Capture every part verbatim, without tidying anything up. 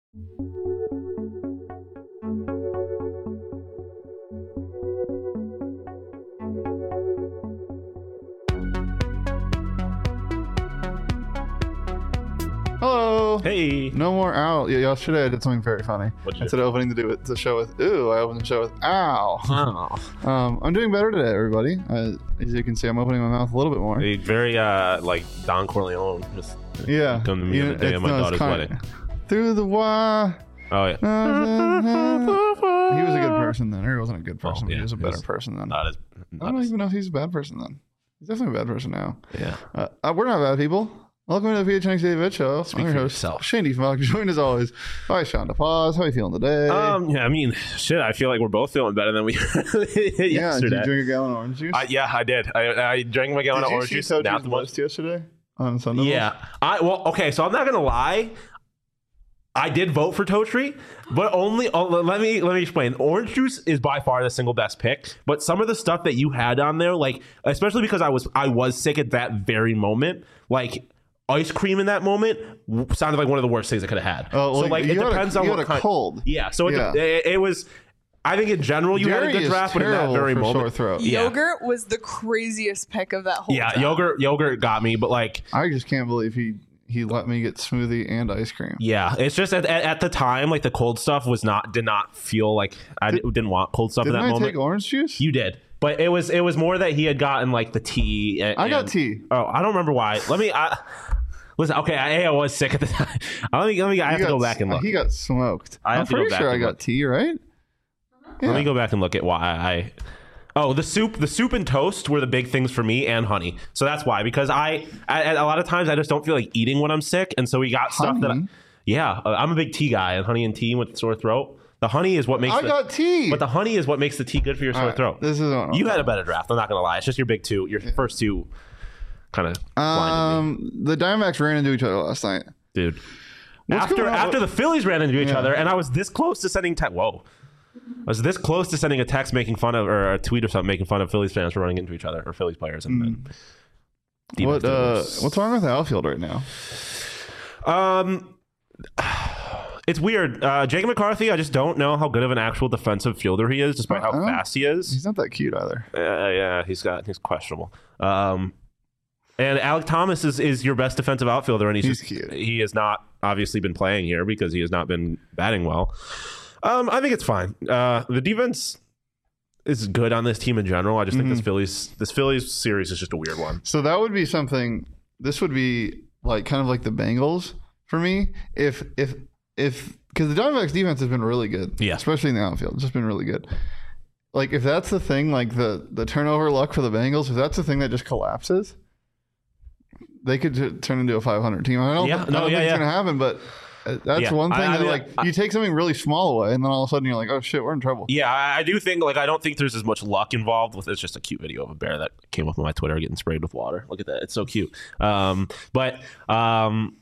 Hello. Hey. No more ow. Yeah, yesterday I did something very funny. What'd you Instead do? of opening the, do it, the show with ooh, I opened the show with ow. Oh. Um, I'm doing better today, everybody. Uh, as you can see, I'm opening my mouth a little bit more. A very uh like Don Corleone. Just Yeah. come to me You on know, the day it's- of my no, it's daughter's kind- wedding. Through the wire. Oh yeah. He was a good person then, or he wasn't a good person, Oh, but yeah, he was a he better was person then. Not as. I Not don't as even know if he's a bad person then. He's definitely a bad person now. yeah. Uh, uh, we're not bad people. Welcome to the P H N X David Show. Speak I'm your for host, yourself. Shane Diefenbach, joined as always by Sean DePaz. How are you feeling today? Um. Yeah. I mean, shit. I feel like we're both feeling better than we did yeah, yesterday. did you drink a gallon of orange juice? Uh, yeah, I did. I, I drank my gallon Did of you orange see juice. Coach's Not the most. list yesterday on Sunday? Yeah. I well. Okay. So I'm not gonna lie. I did vote for Totri, but only oh, let me let me explain. Orange juice is by far the single best pick, but some of the stuff that you had on there, like especially because I was I was sick at that very moment, like ice cream in that moment w- sounded like one of the worst things I could have had. Oh, well, so like you it had a- depends you on had what a kind. cold. Yeah, so it, Yeah. it, it was. I think in general you had a Dairy good is draft, but in that terrible very for moment, sore throat. Yeah. Yogurt was the craziest pick of that whole yeah, time. yogurt yogurt got me, but like. I just can't believe he he let me get smoothie and ice cream. Yeah, it's just at, at, at the time, like the cold stuff was not did not feel like I Did- didn't want cold stuff in Didn't that I moment. take orange juice? You did, but it was it was more that he had gotten like the tea. And, I got and- tea. Oh, I don't remember why. Let me. I, listen, okay, I, I was sick at the time. Let me. Let me. I He have to got- go back and look. He got smoked. I have I'm to go pretty back sure I and got look. tea, right? Yeah. Let me go back and look at why I. Oh, the soup, the soup and toast were the big things for me, and honey. So that's why, because I, I a lot of times I just don't feel like eating when I'm sick, and so we got stuff that. I, Honey? yeah, uh, I'm a big tea guy, and honey and tea with sore throat. The honey is what makes. I the, got tea. But the honey is what makes the tea good for your sore All right, throat. This is what You had a better draft. I'm not gonna lie. It's just your big two. Your first two, kind of blinded me, um the Diamondbacks ran into each other last night. dude. What's after going on? after the Phillies ran into each Yeah. other, and I was this close to sending te- whoa, I was this close to sending a text making fun of or a tweet or something making fun of Phillies fans for running into each other or Phillies players. And then Hmm. What D-backs did uh worse. what's wrong with the outfield right now? Um, it's weird. Uh, Jacob McCarthy, I just don't know how good of an actual defensive fielder he is, despite how Uh-uh. fast he is. He's not that cute either. Uh, yeah, he's got he's questionable. Um, and Alec Thomas is, is your best defensive outfielder, and he's, He's just, cute. he has not obviously been playing here because he has not been batting well. Um, I think it's fine. Uh, the defense is good on this team in general. I just think Mm-hmm. this Phillies this Phillies series is just a weird one. So that would be something. This would be like kind of like the Bengals for me. If if if because the Diamondbacks defense has been really good, Yeah. especially in the outfield, it's just been really good. Like if that's the thing, like the the turnover luck for the Bengals, if that's the thing that just collapses, they could t- turn into a five hundred team. I don't, Yeah, I no, don't yeah, think yeah. it's gonna happen, but uh, that's Yeah. one thing I- I that mean, like I- you take something really small away, and then all of a sudden you're like, oh shit, we're in trouble. Yeah, I, I do think like I don't think there's as much luck involved with. It's just a cute video of a bear that came up on my Twitter getting sprayed with water. Look at that, it's so cute. Um, but um,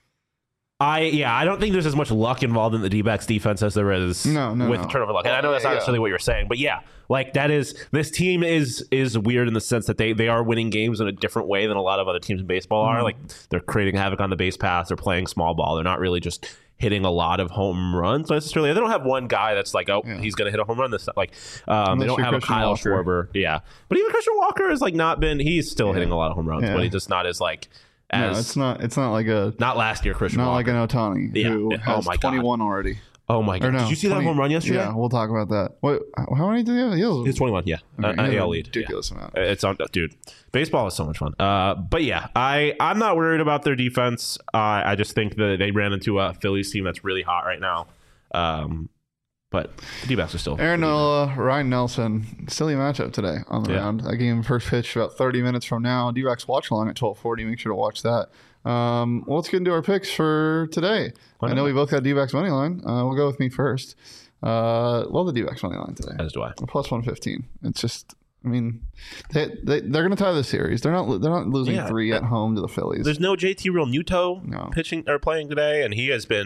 I yeah, I don't think there's as much luck involved in the D-backs defense as there is No, no, with no. turnover luck. And I know that's not Yeah. necessarily what you're saying, but yeah, like that is this team is is weird in the sense that they they are winning games in a different way than a lot of other teams in baseball are. Mm-hmm. Like they're creating havoc on the base paths. They're playing small ball. They're not really just hitting a lot of home runs necessarily. They don't have one guy that's like, oh, Yeah. he's going to hit a home run this like um, they Unless don't you're have a Christian Kyle Walker. Schwarber. Yeah. But even Christian Walker has like not been he's still hitting a lot of home runs, Yeah. but he's just not as like No, as it's not. It's not like a not last year Christian not like Walker. an Otani Yeah. who Yeah. Oh has my God. twenty-one already. oh my Or god. no, Did you see twenty that home run yesterday? Yeah, we'll talk about that. What? How many did he have? He has, It's twenty-one, yeah. Okay, Uh, he has A a L lead. ridiculous Yeah. amount. It's on, dude. Baseball is so much fun. Uh, but yeah, I I'm not worried about their defense. Uh, I just think that they ran into a Phillies team that's really hot right now. Um, but the D-backs are still. Aaron Nola, Ryan Nelson, silly matchup today on the Yeah. round. That game first pitch about thirty minutes from now. D-backs watch along at twelve forty. Make sure to watch that. Um, well, let's get into our picks for today. Why I know not? we both got D-backs money line. Uh, we'll go with me first. Uh, love the D-backs money line today. As do I. Plus one fifteen. It's just, I mean, they, they they're going to tie the series. They're not they're not losing Yeah. three at home to the Phillies. There's no J T Real Muto No. pitching or playing today, and he has been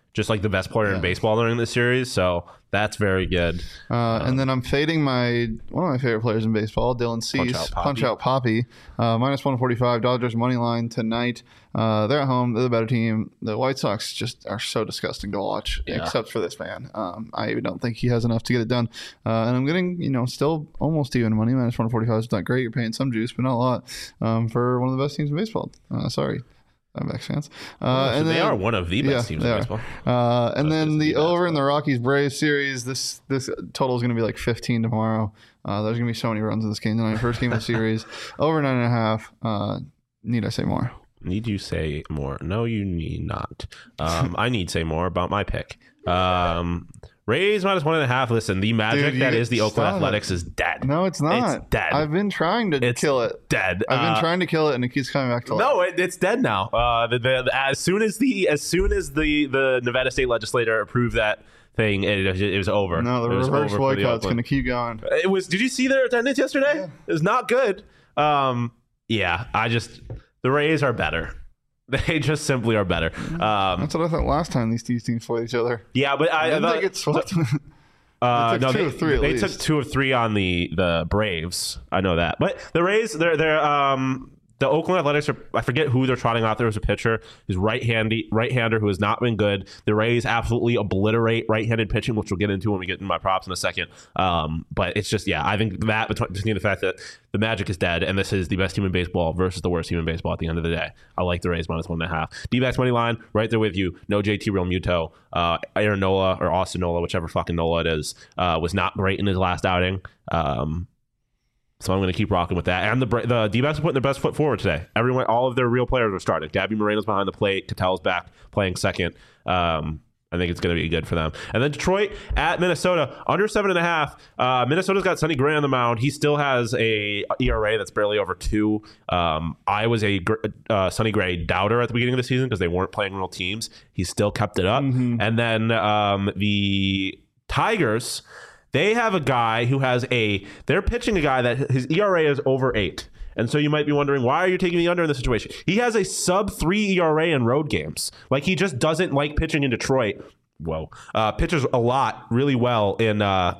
just like the best player Yeah. in baseball during this series. So that's very good. Uh, and then I'm fading my one of my favorite players in baseball, Dylan Cease. Punch Out Poppy. Punch Out Poppy. Uh, minus one forty-five. Dodgers money line tonight. Uh, they're at home. They're the better team. The White Sox just are so disgusting to watch, Yeah. except for this man. Um, I don't think he has enough to get it done. Uh, and I'm getting, you know, still almost even money. Minus one forty-five is not great. You're paying some juice, but not a lot um, for one of the best teams in baseball. Uh, sorry. Diamondbacks fans. Uh, So and they then, are one of the best yeah, teams they in are. baseball. Uh, and That's then just the the over in the Rockies Braves series. This this total is going to be like fifteen tomorrow. Uh, there's going to be so many runs in this game tonight. First game of the series. Over nine and a half. Uh, need I say more? Need you say more? No, you need not. Um, I need say more about my pick. Um, Rays minus one and a half. Listen, the magic Dude, that you- is the Oakland stop. Athletics is dead. No, it's not. It's dead. I've been trying to It's kill it. Dead. I've been Uh, trying to kill it, and it keeps coming back to life. No, it, it's dead now. Uh, the, the, as soon as the as soon as the, the Nevada state legislator approved that thing, it, it was over. No, the It was reverse over for the boycott's going Oakland. to keep going. It was. Did you see their attendance yesterday? Yeah. It was not good. Um, yeah, I just the Rays are better. They just simply are better. Um, That's what I thought last time these two teams played each other. yeah, but I, I Didn't thought, they get swept? Uh, They took no, two they, of three at they least. took two of three on the the Braves. I know that, but the Rays, they're they're um the Oakland Athletics are. I forget who they're trotting out there as a pitcher. He's right-handy right-hander who has not been good. The Rays absolutely obliterate right-handed pitching, which we'll get into when we get into my props in a second. Um, but it's just yeah, I think that between, between the fact that the Magic is dead and this is the best team in baseball versus the worst team in baseball at the end of the day, I like the Rays minus one and a half. D-backs money line right there with you. No J T Real Muto. Uh, Aaron Nola or Austin Nola, whichever fucking Nola it is, uh, was not great in his last outing. Um, so I'm going to keep rocking with that. And the Bra- the D-backs are putting their best foot forward today. Everyone, all of their real players are starting. Gabby Moreno's behind the plate. Catel's back playing second. Um, I think it's going to be good for them. And then Detroit at Minnesota, under seven and a half. Uh, Minnesota's got Sonny Gray on the mound. He still has a E R A that's barely over two. Um, I was a gr- uh, Sonny Gray doubter at the beginning of the season because they weren't playing real teams. He still kept it up. Mm-hmm. And then um, the Tigers, they have a guy who has a, they're pitching a guy that his E R A is over eight. And so you might be wondering, why are you taking the under in this situation? He has a sub three E R A in road games. Like, he just doesn't like pitching in Detroit. Whoa. Uh, pitches a lot really well in uh,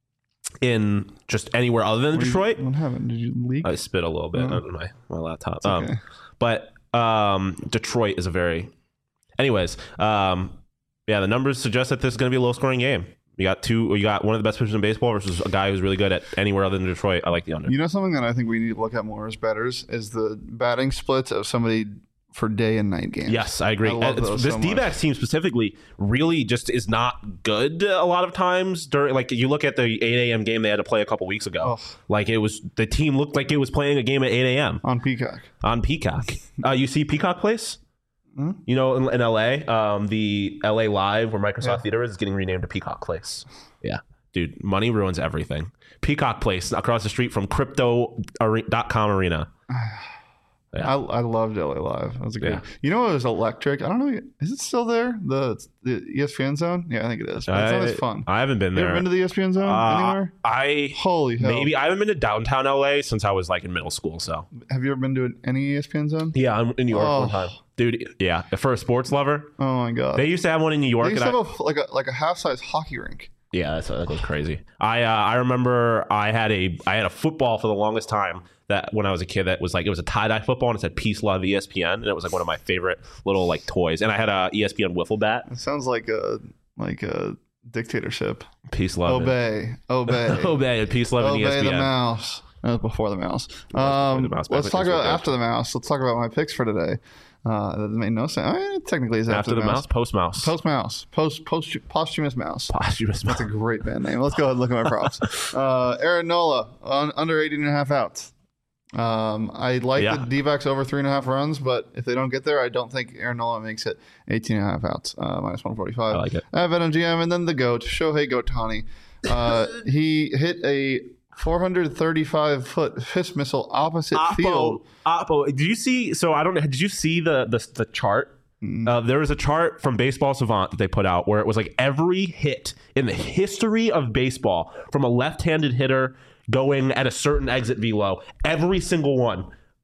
in just anywhere other than Detroit. What happened? Did you leak? I spit a little bit Oh. on my, my laptop. It's okay. Um, but um, Detroit is a very... Anyways, um, yeah, the numbers suggest that this is going to be a low-scoring game. You got two. You got one of the best pitchers in baseball versus a guy who's really good at anywhere other than Detroit. I like the under. You know something that I think we need to look at more as bettors is the batting splits of somebody for day and night games. Yes, I agree. I love Uh, those this so much. D-backs team specifically really just is not good a lot of times. During, like, you look at the eight a.m. game they had to play a couple weeks ago. Oh. Like, it was the team looked like it was playing a game at eight a.m. On Peacock. on Peacock. Uh, you see Peacock Place? Hmm? You know, in, in L A, um, the L A Live where Microsoft Yeah. Theater is, is getting renamed to Peacock Place. Yeah. Dude, money ruins everything. Peacock Place across the street from crypto dot com arena. Yeah. I, I loved L A Live. That was a great. Yeah. You know what was electric? I don't know. Is it still there? The the E S P N zone? Yeah, I think it is. It's not as fun. I haven't been You there. ever been to the E S P N zone Uh, anywhere? I Holy hell! maybe I haven't been to downtown L A since I was like in middle school. So Have you ever been to any E S P N zone? yeah, I'm in New York Oh. one time, dude. Yeah, for a sports lover, Oh my god! they used to have one in New York. They used and to I- have a, like a like a half size hockey rink. Yeah, that's, that goes crazy. I uh, I remember I had a I had a football for the longest time that when I was a kid that was like it was a tie dye football and it said Peace Love E S P N and it was like one of my favorite little like toys and I had a E S P N wiffle bat. It sounds like a like a dictatorship. Peace Love. Obey, obey, Obey. Peace Love and E S obey P N. the mouse. That was before the mouse. before Um, the mouse, back let's when talk things were about good. after the mouse. Let's talk about my picks for today. Uh, that made no sense. I mean, it technically is after, After the mouse, post mouse. Post mouse. Post post posthumous mouse. Posthumous mouse. That's a great band name. Let's go ahead and look at my props. Uh, Aaron Nola on under eighteen and a half outs. Um, I like Yeah. the D-backs over three and a half runs, but if they don't get there, I don't think Aaron Nola makes it eighteen and a half outs, uh, minus one forty-five. I like it. I have it on G M, and then the GOAT, Shohei Gohtani. Uh, he hit a four hundred thirty-five foot fist missile opposite field. Oppo, Oppo. Did you see? So I don't know. Did you see the the, the chart? Uh, there was a chart from Baseball Savant that they put out where it was like every hit in the history of baseball from a left-handed hitter going at a certain exit velo, every single one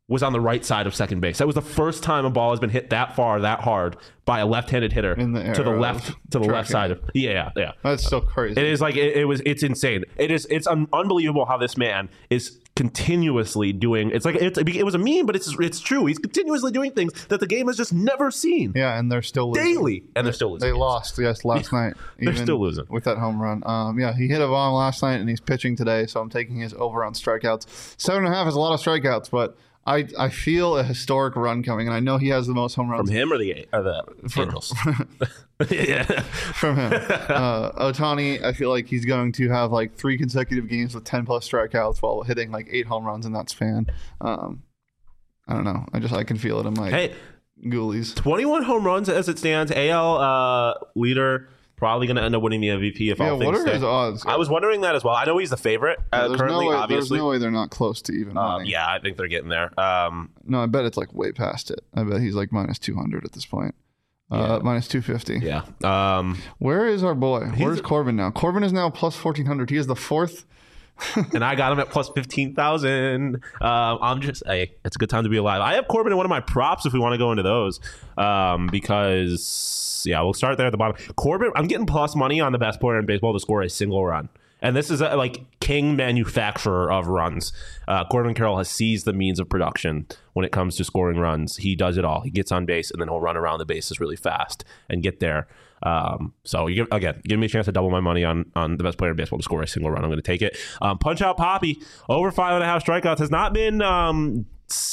was on the right side of second base. That was the first time a ball has been hit that far, that hard by a left-handed hitter In the to the era left of to the left tracking. side of yeah, yeah, yeah. That's so crazy. It is like it, it was. It's insane. It is. It's un- unbelievable how this man is continuously doing. It's like it's, it was a meme, but it's it's true. He's continuously doing things that the game has just never seen Yeah, and they're still losing. daily, and they're still losing. They lost, yes, last night. They're even still losing. with that home run. Um, yeah, he hit a bomb last night, and he's pitching today, so I'm taking his over on strikeouts. Seven and a half is a lot of strikeouts, but I I feel a historic run coming, and I know he has the most home runs From him or the or the Angels. yeah. from him. uh, Ohtani, I feel like he's going to have like three consecutive games with ten plus strikeouts while hitting like eight home runs in that span. Um, I don't know. I just I can feel it in my Hey, ghoulies. twenty-one home runs as it stands. A L uh, leader. Probably going to end up winning the M V P if Yeah, all things what are stay. his odds? I was wondering that as well. I know he's the favorite uh, there's currently, no way, obviously. There's no way they're not close to even Um, winning. yeah, I think they're getting there. Um, No, I bet it's like way past it. I bet he's like minus two hundred at this point. Uh, Yeah. minus two fifty. yeah. Um, Where is our boy? Where's Corbin now? Corbin is now plus fourteen hundred. He is the fourth. and I got him at plus fifteen thousand. Um, I'm just, hey, it's a good time to be alive. I have Corbin in one of my props if we want to go into those. Um, because, yeah, we'll start there at the bottom. Corbin, I'm getting plus money on the best player in baseball to score a single run. And this is a, like king manufacturer of runs. Uh, Corbin Carroll has seized the means of production when it comes to scoring runs. He does it all. He gets on base and then he'll run around the bases really fast and get there. Um, so you give, again, give me a chance to double my money on on the best player in baseball to score a single run. I'm going to take it. Um, Punch Out Poppy over five and a half strikeouts has not been um,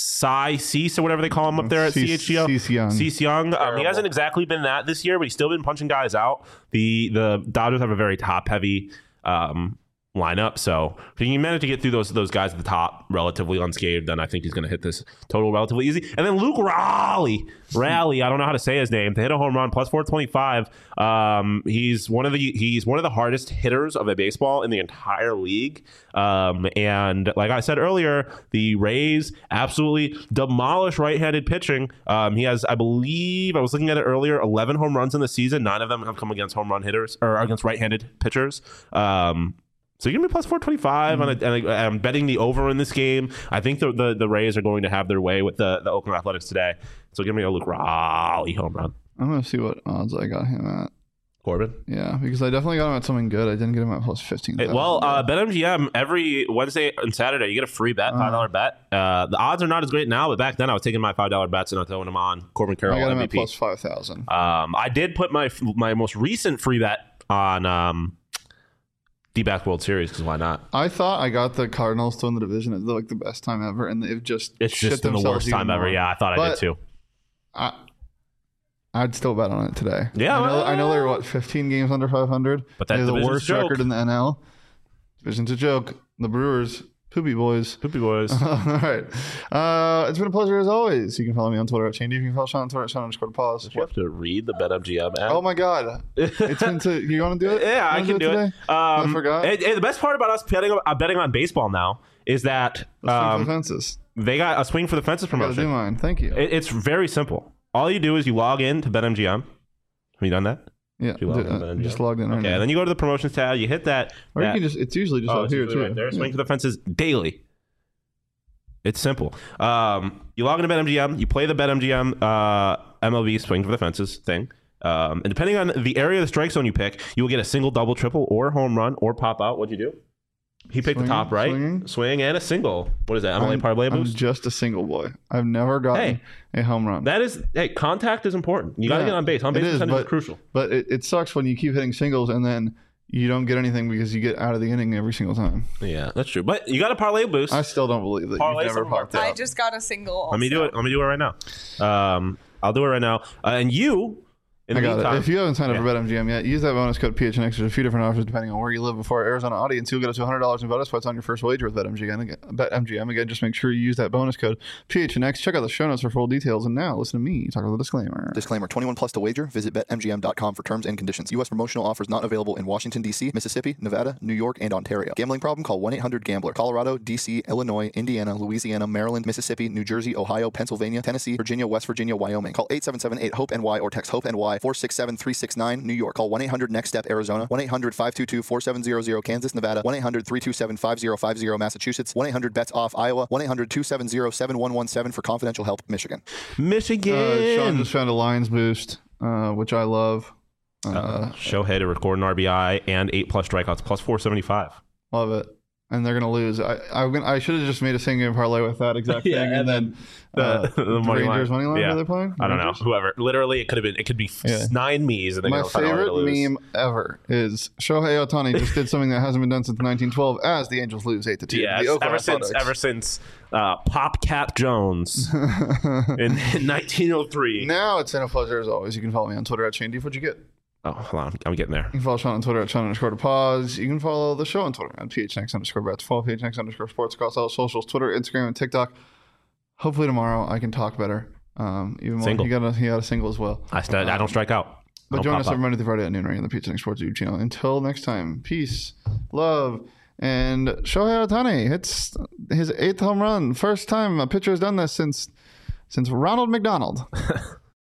Cy Cease or whatever they call him up there at Cease- C H G O. Cease Young. Cease Young. Um, he hasn't exactly been that this year, but he's still been punching guys out. The the Dodgers have a very top heavy um, lineup, so if he can manage to get through those those guys at the top relatively unscathed, then I think he's going to hit this total relatively easy. And then Luke Raleigh, Raleigh, I don't know how to say his name, to hit a home run plus four twenty-five. Um, he's one of the he's one of the hardest hitters of a baseball in the entire league. Um, and like I said earlier, the Rays absolutely demolish right-handed pitching. Um, he has, I believe, I was looking at it earlier, eleven home runs in the season. Nine of them have come against home run hitters or against right-handed pitchers. Um, So you're gonna be plus four twenty five on a, and I- I'm betting the over in this game. I think the, the the Rays are going to have their way with the, the Oakland Athletics today. So give me a Luke Raleigh home run. I'm gonna see what odds I got him at. Corbin. Yeah, because I definitely got him at something good. I didn't get him at plus fifteen. Hey, well, uh, BetMGM every Wednesday and Saturday you get a free bet, five dollar bet. Uh, the odds are not as great now, but back then I was taking my five dollar bets and I was throwing them on Corbin Carroll I got him M V at P. plus five thousand. Um, I did put my my most recent free bet on um, D-Back World Series because why not? I thought I got the Cardinals to win the division at like the best time ever, and they've just It's shit just been the themselves worst time even ever. more. Yeah, I thought I But did too. I, I'd still bet on it today. Yeah, I know, well, I know they're what fifteen games under five hundred. But that they have the division's worst a joke. record in the N L. Division's a joke. The Brewers, poopy boys. Poopy boys. All right. Uh, it's been a pleasure as always. You can follow me on Twitter at Shane D. You can follow Sean on Twitter at Sean underscore pause. You have to read the BetMGM app. Oh my God. It's been to, you want to do it? Yeah, I You can wanna do it. today? Um, I forgot. and- and the best part about us betting, uh, betting on baseball now is that Let's swing for the um, fences. they got a swing for the fences I gotta do promotion. mine. Thank you. It, it's very simple. All you do is you log in to BetMGM. Have you done that? yeah. you log do- in to uh, BetMGM? just logged in right Okay, now. and then you go to the promotions tab. You hit that. Or that you can just, it's usually just oh, out it's here usually too. right there. Yeah. Swing for the fences daily. It's simple. Um, you log into BetMGM. You play the BetMGM uh, M L B Swing for the Fences thing. Um, and depending on the area of the strike zone you pick, you will get a single, double, triple, or home run, or pop out. What'd you do? He picked Swinging, the top right. swinging. Swing and a single. What is that? M L A I'm, parlay I'm boost? just a single boy. I've never gotten Hey. a home run. That is, hey, contact is important. You got to Yeah, get on base. On base it is, percentage is but- crucial. But it, it sucks when you keep hitting singles and then you don't get anything because you get out of the inning every single time. Yeah, that's true. But you got a parlay boost. I still don't believe that Parlay you've never some more. popped I out. just got a single. Let me do also. it. Let me do it right now. Um, I'll do it right now. Uh, and you, in I the got meantime, it. If you haven't signed up Yeah. for BetMGM yet, use that bonus code P H N X. There's a few different offers depending on where you live. Before our Arizona audience, you'll get up to one hundred dollars in bonus points on your first wager with BetMGM. Again, BetMGM. Again, just make sure you use that bonus code P H N X. Check out the show notes for full details. And now, listen to me talk about the disclaimer. Disclaimer, twenty-one plus to wager. Visit Bet M G M dot com for terms and conditions. U S promotional offers not available in Washington, D C, Mississippi, Nevada, New York, and Ontario. Gambling problem? Call one eight hundred gambler. Colorado, D C, Illinois, Indiana, Louisiana, Maryland, Mississippi, New Jersey, Ohio, Pennsylvania, Tennessee, Virginia, West Virginia, Wyoming. Call eight seven seven eight HOPE-N Y or text HOPE-N Y apply. four six seven, three six nine, New York. Call one eight hundred next step Arizona. one eight hundred, five two two, four seven zero zero Kansas, Nevada. one eight hundred, three two seven, five zero five zero Massachusetts. one eight hundred bets off Iowa. one eight hundred, two seven zero, seven one one seven for confidential help Michigan. Michigan. Uh, Sean just found a Lions boost, uh, which I love. Uh, uh, Shohei to record an R B I and eight plus strikeouts, plus four seventy-five. Love it. And they're gonna lose. I I, I should have just made a single parlay with that exact Yeah, thing, and, and then the- uh, the money Rangers line. money line. Yeah. Are they playing? I don't know. Rangers? Whoever. Literally, it could have been. It could be Yeah. nine me's, and they're My gonna find a way to favorite lose. meme ever is Shohei Ohtani just did something that hasn't been done since nineteen twelve as the Angels lose eight to two. Yes, ever since ever since uh, Pop Cap Jones in, in nineteen oh three. Now it's been a pleasure as always. You can follow me on Twitter at Shane Deep. What'd you get? Oh, hold on, I'm getting there. You can follow Sean on Twitter at Sean underscore to pause. You can follow the show on Twitter at P H N X underscore bets. Follow P H N X underscore sports across all socials, Twitter, Instagram, and TikTok. Hopefully tomorrow I can talk better. Um, even more. Single. He got a he got a single as well. I, st- I don't strike out. I But don't join pop us up. every Monday through Friday at noon right on the P H N X Sports YouTube channel. Until next time, peace, love, and Shohei Ohtani hits his eighth home run. First time a pitcher has done this since since Ronald McDonald.